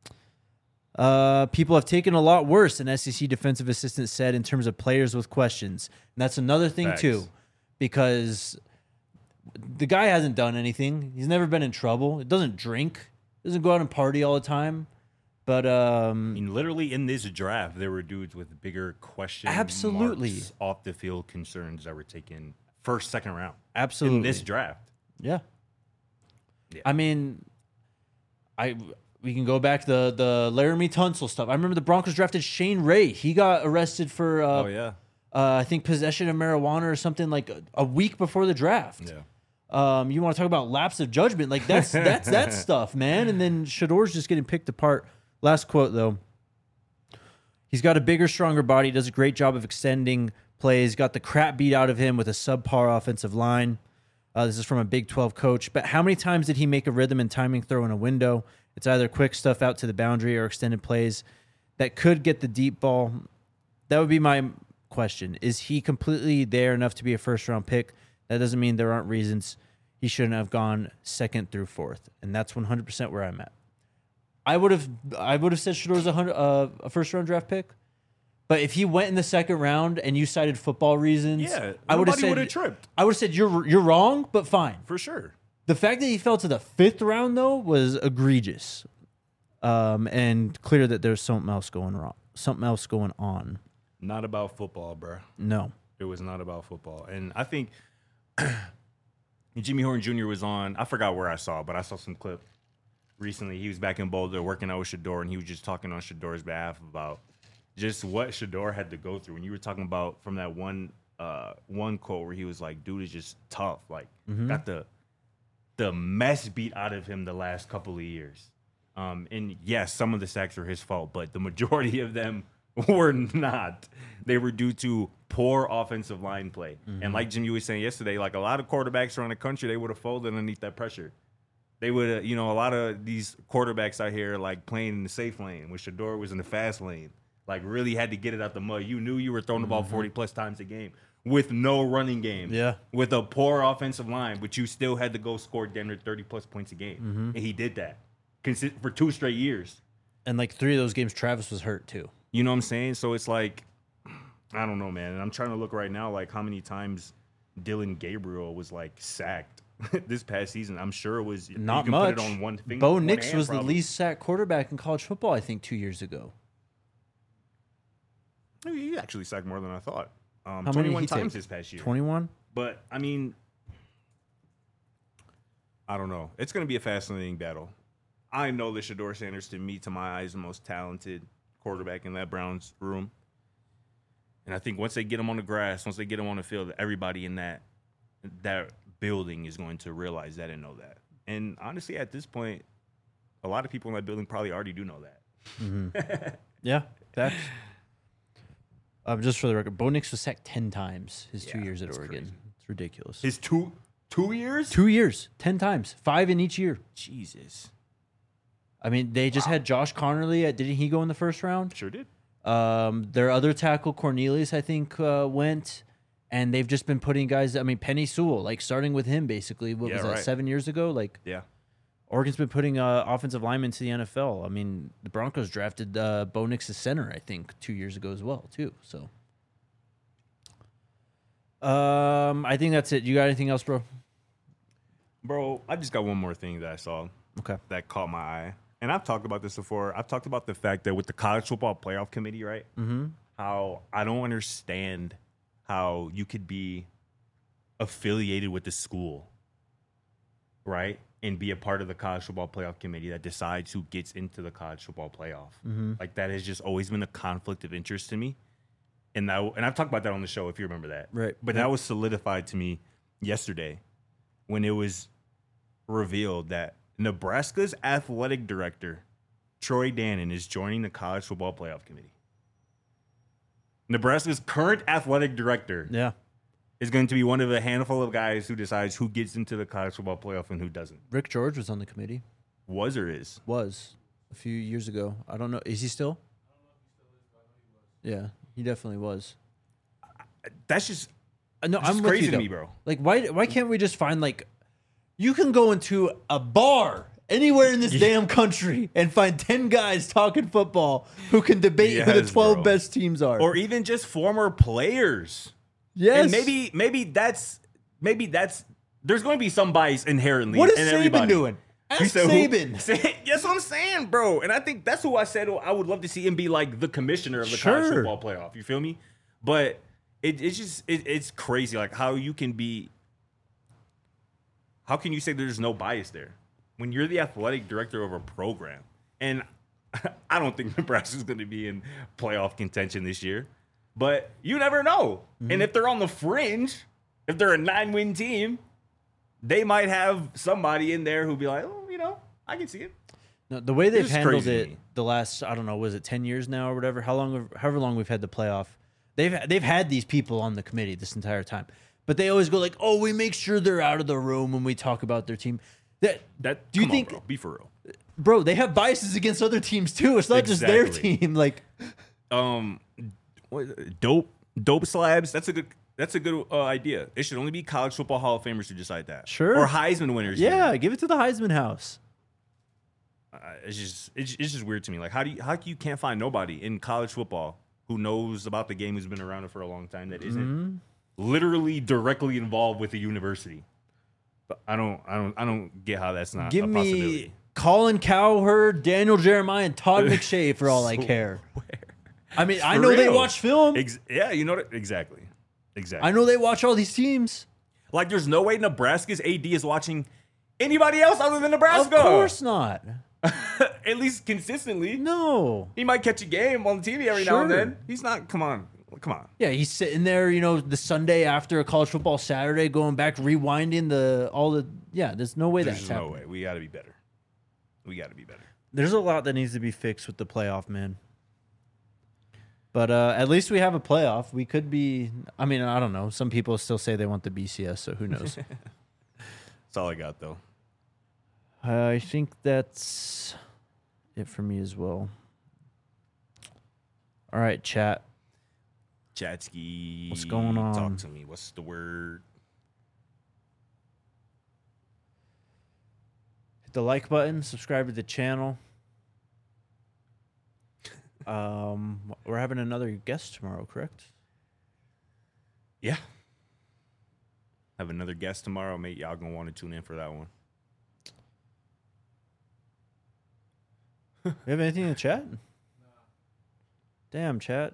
People have taken a lot worse," an SEC defensive assistant said, in terms of players with questions. And that's another thing, Facts. too, because the guy hasn't done anything. He's never been in trouble. He doesn't drink. Doesn't go out and party all the time. But I mean, literally in this draft, there were dudes with bigger question Absolutely. marks, off the field concerns that were taken first, second round. absolutely. In this draft. Yeah. Yeah. I mean, we can go back to the Laramie Tunsil stuff. I remember the Broncos drafted Shane Ray. He got arrested for I think possession of marijuana or something like a week before the draft. Yeah. You want to talk about lapse of judgment? Like that's that stuff, man. And then Shador's just getting picked apart. Last quote though. He's got a bigger, stronger body. Does a great job of extending plays. Got the crap beat out of him with a subpar offensive line. This is from a Big 12 coach. But how many times did he make a rhythm and timing throw in a window? It's either quick stuff out to the boundary or extended plays that could get the deep ball. That would be my question. Is he completely there enough to be a first-round pick? That doesn't mean there aren't reasons he shouldn't have gone 2nd through 4th. And that's 100% where I'm at. I would have said Shedor's a first-round draft pick. But if he went in the 2nd round and you cited football reasons, Yeah, I would have nobody said would've tripped. I would have said you're wrong, but fine. For sure. The fact that he fell to the 5th round though was egregious, and clear that there's something else going on. Not about football, bro. No, It was not about football. And I think Jimmy Horn Jr. was on, I forgot where I saw, but I saw some clip recently. He was back in Boulder working out with Shedeur, and he was just talking on Shedor's behalf about just what Shedeur had to go through. And you were talking about from that one quote where he was like, dude is just tough. Like, got the mess beat out of him the last couple of years. And yes, some of the sacks were his fault, but the majority of them were not. They were due to poor offensive line play. And like Jimmy was saying yesterday, like a lot of quarterbacks around the country, they would have folded underneath that pressure. They would have, a lot of these quarterbacks out here like playing in the safe lane when Shedeur was in the fast lane, like really had to get it out the mud. You knew you were throwing the ball 40 plus times a game with no running game. Yeah. With a poor offensive line, but you still had to go score Denver 30 plus points a game. And he did that for 2 straight years. and like 3 of those games, Travis was hurt too. You know what I'm saying? So it's like, I don't know, man. And I'm trying to look right now, like how many times Dylan Gabriel was like sacked this past season. I'm sure it was Not you can much. Put it on one finger, Bo one Nix hand, was probably. the least sacked quarterback in college football, I think, 2 years ago. He actually sacked more than I thought. How many 21 he times take? this past year. 21? But I mean, I don't know. It's going to be a fascinating battle. I know that Shedeur Sanders, to me, to my eyes, the most talented quarterback in that Browns room. And I think once they get him on the grass, once they get him on the field, everybody in that building is going to realize that and know that. And honestly, at this point, a lot of people in that building probably already do know that. Yeah, that's. Just for the record, Bo Nix was sacked 10 times his 2 Yeah, years at that's Oregon. crazy. It's ridiculous. His two years? 2 years, 10 times, 5 in each year. Jesus. I mean, they just had Josh Connerly. Didn't he go in the first round? Sure did. Their other tackle, Cornelius, I think, went. And they've just been putting guys. I mean, Penny Sewell, like starting with him basically. What was that, right. 7 years ago? Like, Yeah. Oregon's been putting offensive linemen to the NFL. I mean, the Broncos drafted Bo Nix as center, I think, 2 years ago as well, too. So, I think that's it. You got anything else, bro? Bro, I just got one more thing that I saw Okay. that caught my eye. And I've talked about this before. I've talked about the fact that with the college football playoff committee, right? Mm-hmm. How I don't understand how you could be affiliated with the school, right? And be a part of the college football playoff committee that decides who gets into the college football playoff. Mm-hmm. Like that has just always been a conflict of interest to me. And I've talked about that on the show, if you remember that. Right. But that was solidified to me yesterday when it was revealed that Nebraska's athletic director, Troy Dannon, is joining the College Football Playoff Committee. Nebraska's current athletic director Yeah. is going to be one of a handful of guys who decides who gets into the College Football Playoff and who doesn't. Rick George was on the committee. Was or is? Was a few years ago. I don't know. Is he still? Yeah, he definitely was. That's just, No, just I'm with crazy you, to though. me, bro. Like, why can't we just find like, you can go into a bar anywhere in this damn country and find 10 guys talking football who can debate who the Yes, 12 bro. best teams are. Or even just former players. yes, And maybe that's there's going to be some bias inherently. what is in Saban everybody. doing? You Ask said who? Saban. That's what I'm saying, bro. And I think that's who I said I would love to see him be like the commissioner of the college Sure. football playoff. You feel me? But it's crazy, like how you can be. How can you say there's no bias there when you're the athletic director of a program? And I don't think Nebraska's going to be in playoff contention this year, but you never know. And if they're on the fringe, if they're a 9-win team, they might have somebody in there who'll be like, oh, I can see it. No, the way they've It's handled crazy to it me. the last, I don't know, was it 10 years now or whatever? However long we've had the playoff, they've had these people on the committee this entire time, but they always go like, "Oh, we make sure they're out of the room when we talk about their team." Do you Come on, think, bro, be for real? bro? They have biases against other teams too. It's not just their Exactly. team. Like, Dope slabs. That's a good idea. It should only be college football Hall of Famers who decide that. Sure. Or Heisman winners. yeah, give it to the Heisman House. It's just weird to me. Like how you can't find nobody in college football who knows about the game, who's been around it for a long time, that isn't literally directly involved with the university. But I don't get how that's not Give a me possibility. Colin Cowherd, Daniel Jeremiah, and Todd McShay for all I care. I mean, I For know they real. watch film. Yeah, you know what? Exactly. I know they watch all these teams. Like, there's no way Nebraska's AD is watching anybody else other than Nebraska. Of course not. At least consistently. No. He might catch a game on TV every now and Sure. then. He's not. Come on. Yeah, he's sitting there, the Sunday after a college football Saturday, going back, rewinding Yeah, there's no way There's that's just no happening. way. We got to be better. There's a lot that needs to be fixed with the playoff, man. But at least we have a playoff. We could be. I mean, I don't know. Some people still say they want the BCS, so who knows? That's all I got, though. I think that's it for me as well. All right, chat. Chatsky. What's going on? Talk to me. What's the word? Hit the like button. Subscribe to the channel. We're having another guest tomorrow, correct? Yeah. Have another guest tomorrow, mate. Y'all gonna want to tune in for that one. We have anything in the chat? No. Damn, chat.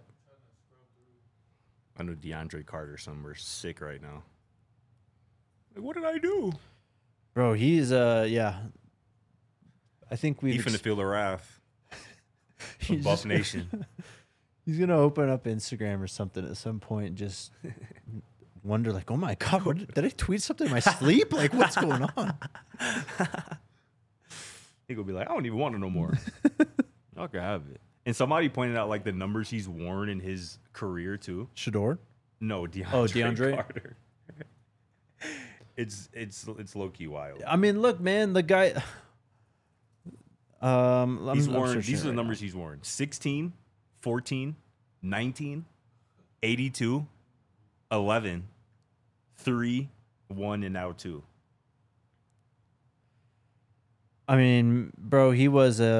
I know DeAndre Carter somewhere sick right now. Like, what did I do? Bro, he's yeah. I think He we've finna feel the wrath he's of Buff just- Nation. He's gonna open up Instagram or something at some point and just wonder, like, oh my god, did I tweet something in my sleep? Like, what's going on? He gonna be like, I don't even want to know more. Y'all can have it. And somebody pointed out like the numbers he's worn in his career too. Shador? No, DeAndre. Oh, DeAndre? Carter. It's low key wild. I mean, look, man, the guy. He's worn. searching These are the right numbers he's worn: 16, 14, 19, 82, 11, 3, 1, and now 2. I mean, bro, he was he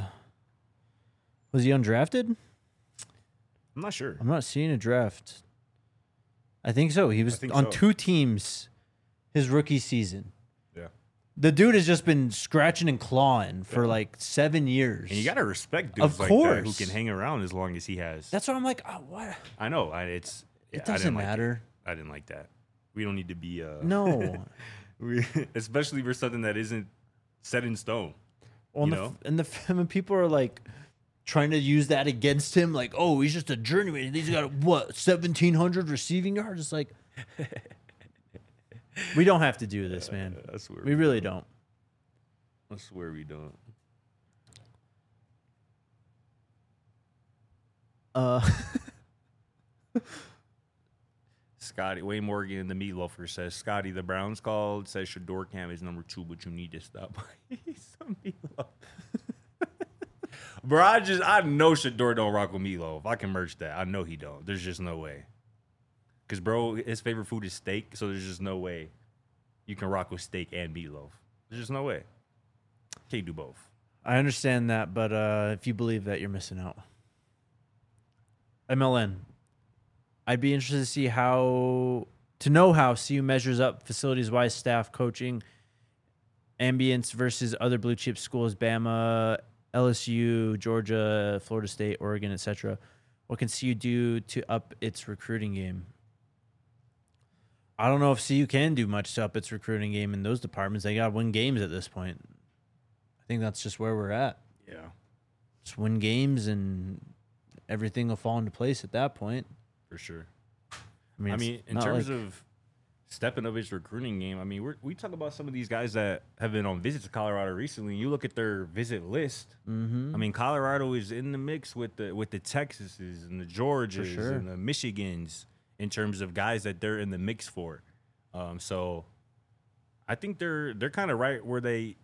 undrafted? I'm not sure. I'm not seeing a draft. I think so. He was think on so. 2 teams his rookie season. Yeah. The dude has just been scratching and clawing for like 7 years. And you gotta respect dudes Of like that who course. can hang around as long as he has. That's why I'm like, oh, what? I know. It I doesn't didn't like matter. it. I didn't like that. We don't need to be No. especially for something that isn't set in stone. Well, You know? and when people are like trying to use that against him, like, oh, he's just a journeyman. He's got what 1,700 receiving yards. It's like we don't have to do this, man. That's weird. We really don't. I swear we don't. Scotty Wayne Morgan in the Meatloafer says Scotty the Browns called, says Shador Cam is number 2, but you need to stop. Some Meatloaf. Bro, I know Shador don't rock with Meatloaf. I can merch that. I know he don't. There's just no way. Cause bro, his favorite food is steak, so there's just no way you can rock with steak and meatloaf. There's just no way. Can't do both. I understand that, but if you believe that, you're missing out. MLN. I'd be interested to see how CU measures up facilities-wise, staff, coaching, ambience versus other blue chip schools, Bama, LSU, Georgia, Florida State, Oregon, etc. What can CU do to up its recruiting game? I don't know if CU can do much to up its recruiting game in those departments. They got to win games at this point. I think that's just where we're at. Yeah. Just win games and everything will fall into place at that point. For sure. I mean, in terms of stepping up his recruiting game, I mean, we talk about some of these guys that have been on visits to Colorado recently. You look at their visit list. Mm-hmm. I mean, Colorado is in the mix with the Texases and the Georgias and the Michigans in terms of guys that they're in the mix for. So I think they're kind of right where they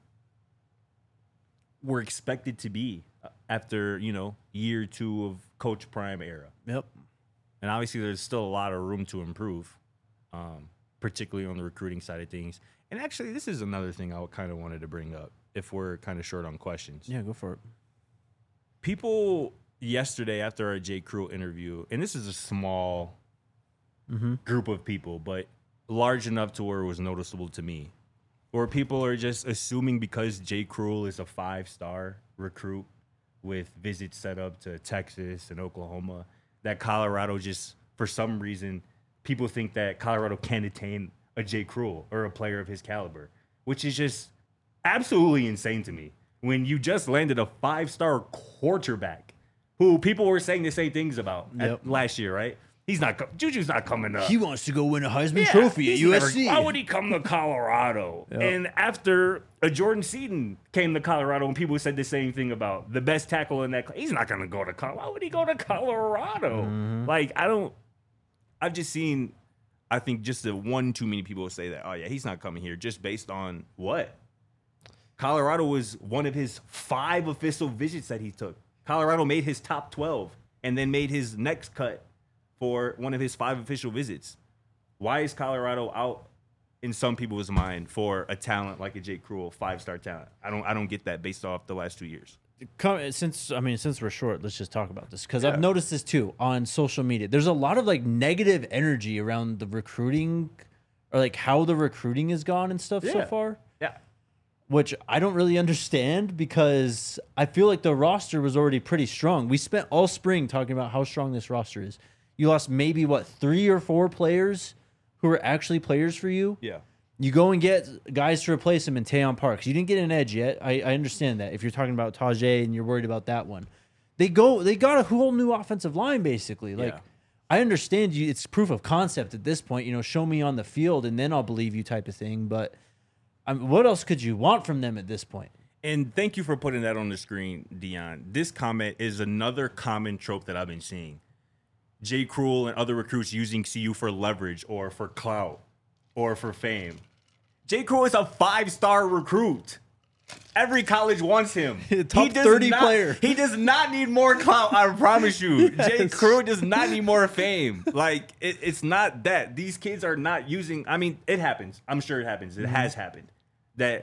were expected to be after, year 2 of Coach Prime era. Yep. And obviously there's still a lot of room to improve, particularly on the recruiting side of things. And actually, this is another thing I kind of wanted to bring up if we're kind of short on questions. Yeah, go for it. People yesterday after our J. Crew interview, and this is a small group of people, but large enough to where it was noticeable to me, where people are just assuming because J. Crew is a 5-star recruit with visits set up to Texas and Oklahoma, that Colorado just, for some reason, people think that Colorado can attain a J. Crew or a player of his caliber, which is just absolutely insane to me. When you just landed a 5-star quarterback who people were saying the same things about last year, right? Juju's not coming up. He wants to go win a Heisman Trophy at USC. Why would he come to Colorado? Yep. And after a Jordan Seaton came to Colorado, and people said the same thing about the best tackle in that class, he's not going to go to Colorado. Why would he go to Colorado? I've just seen, I think just the one too many people say that, oh yeah, he's not coming here just based on what? Colorado was one of his 5 official visits that he took. Colorado made his top 12 and then made his next cut for one of his 5 official visits. Why is Colorado out in some people's mind for a talent like a Jake Cruel, 5-star talent? I don't get that based off the last 2 years. Since we're short, let's just talk about this because I've noticed this too on social media. There's a lot of negative energy around the recruiting or how the recruiting has gone and stuff so far. Yeah. Which I don't really understand because I feel like the roster was already pretty strong. We spent all spring talking about how strong this roster is. You lost maybe, 3 or 4 players who were actually players for you? Yeah. You go and get guys to replace him in Tayon Parks. You didn't get an edge yet. I understand that. If you're talking about Tajay and you're worried about that one. They got a whole new offensive line, basically. I understand you. It's proof of concept at this point. Show me on the field and then I'll believe you type of thing. But what else could you want from them at this point? And thank you for putting that on the screen, Dion. This comment is another common trope that I've been seeing. Jay Cruel and other recruits using CU for leverage or for clout or for fame. Jay Cruel is a 5-star recruit. Every college wants him. Top 30 player. He does not need more clout, I promise you. Yes. Jay Cruel does not need more fame. It's not that. These kids are not using... I mean, it happens. I'm sure it happens. It has happened. That,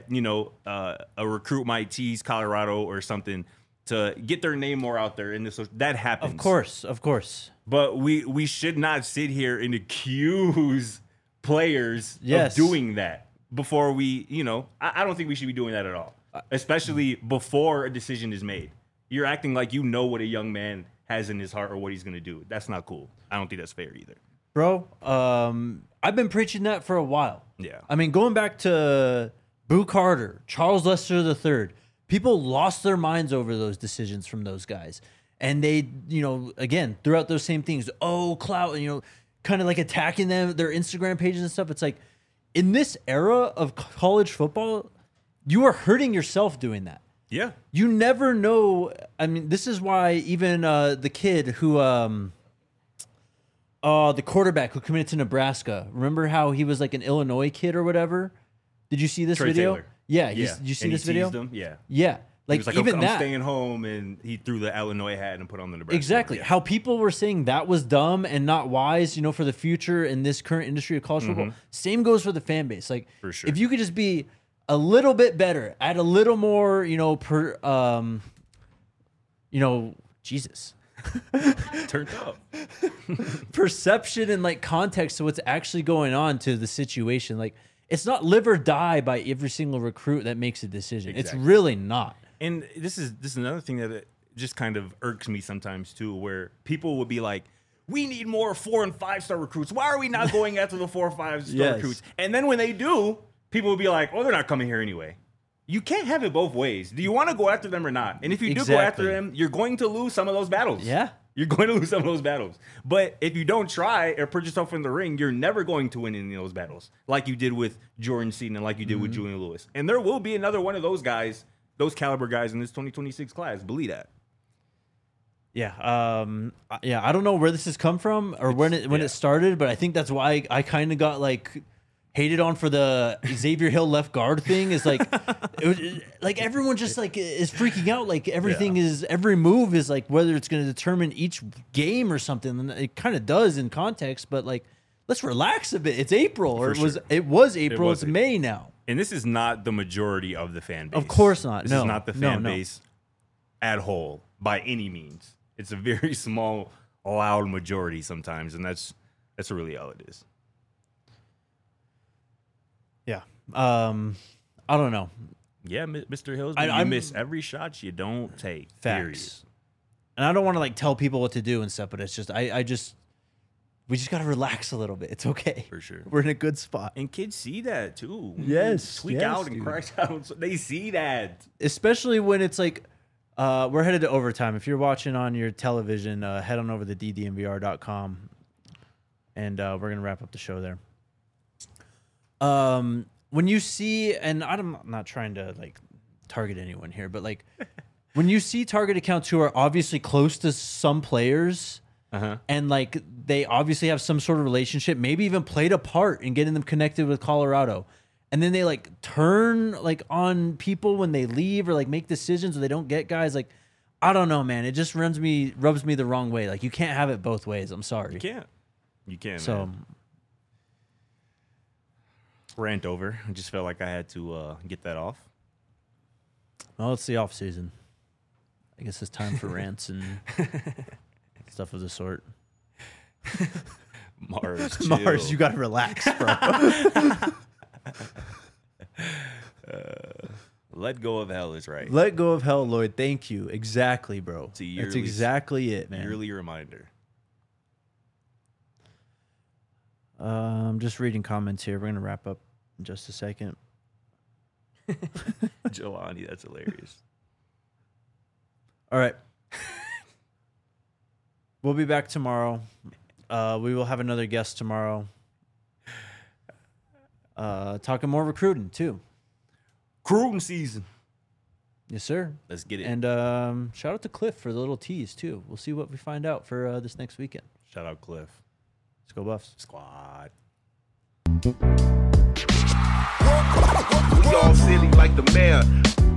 a recruit might tease Colorado or something to get their name more out there. That happens. Of course. But we should not sit here and accuse players of doing that before we, I don't think we should be doing that at all, especially before a decision is made. You're acting like you know what a young man has in his heart or what he's going to do. That's not cool. I don't think that's fair either. Bro, I've been preaching that for a while. Yeah. I mean, going back to Boo Carter, Charles Lester III, people lost their minds over those decisions from those guys. And they, again, throughout those same things, clout, kind of attacking them, their Instagram pages and stuff. It's in this era of college football, you are hurting yourself doing that. Yeah. You never know. I mean, this is why even the kid who, the quarterback who committed to Nebraska. Remember how he was like an Illinois kid or whatever? Did you see this Trey video? Taylor. Yeah. Did you see And this he video? teased him? Yeah. Yeah. He Like, was like, even I'm that. staying home, and he threw the Illinois hat and put on the Nebraska. Exactly. Yeah. How people were saying that was dumb and not wise, you know, for the future in this current industry of college football. Same goes for the fan base. Like, For sure. if you could just be a little bit better, add a little more, you know, Jesus. Turned up. Perception and like context to what's actually going on to the situation. Like, it's not live or die by every single recruit that makes a decision. Exactly. It's really not. And this is another thing that just kind of irks me sometimes too, where people would be like, "We need more 4- and 5-star recruits. Why are we not going after the 4- or 5-star Yes. recruits?" And then when they do, people will be like, "Oh, they're not coming here anyway." You can't have it both ways. Do you want to go after them or not? And if you do go after Exactly. them, you're going to lose some of those battles. Yeah. You're going to lose some of those battles. But if you don't try or put yourself in the ring, you're never going to win any of those battles, like you did with Jordan Seaton and like you did with Julian Lewis. And there will be another one of those guys, those caliber guys in this 2026 class. Believe that. Yeah. I don't know where this has come from or when it started, but I think that's why I kind of got like hated on for the Xavier Hill left guard thing. Is like, like everyone just like is freaking out. Like everything is, every move is like whether it's going to determine each game or something. And it kind of does in context, but like, let's relax a bit. It's April, or For sure. it was April. was It's April. May now. And this is not the majority of the fan base. Of course not. This No. is not the No, fan no. base at whole by any means. It's a very small, loud majority sometimes, and that's really all it is. Yeah. I don't know. Yeah, Mr. Hillsby, I'm- you miss every shot you don't take. Facts. And I don't want to like tell people what to do and stuff, but it's just we just got to relax a little bit. It's okay. For sure. We're in a good spot. And kids see that too. When Yes, you tweak yes, out and dude. crash out. They see that. Especially when it's like we're headed to overtime. If you're watching on your television, head on over to ddnvr.com and we're going to wrap up the show there. When you see, and I'm not trying to like target anyone here, but like when you see target accounts who are obviously close to some players and like they obviously have some sort of relationship, maybe even played a part in getting them connected with Colorado, and then they like turn like on people when they leave or like make decisions or they don't get guys, like I don't know, man. It just rubs me the wrong way. Like you can't have it both ways. I'm sorry. You can't. So Man. Rant over. I just felt like I had to get that off. well, it's the off season. I guess it's time for rants and stuff of the sort. Mars, Mars, chill. you gotta relax, bro. Let go of hell is right. Let go of hell, Lloyd. Thank you. Exactly, bro. It's a That's yearly- exactly it, man. Yearly reminder. I'm just reading comments here. We're gonna wrap up in just a second. Jelani, that's hilarious. All right. We'll be back tomorrow. We will have another guest tomorrow. Talking more recruiting too. Recruiting season. Yes, sir. Let's get it. And shout out to Cliff for the little tease too. We'll see what we find out for this next weekend. Shout out Cliff. Let's go Buffs. Squad. We all silly like the mayor.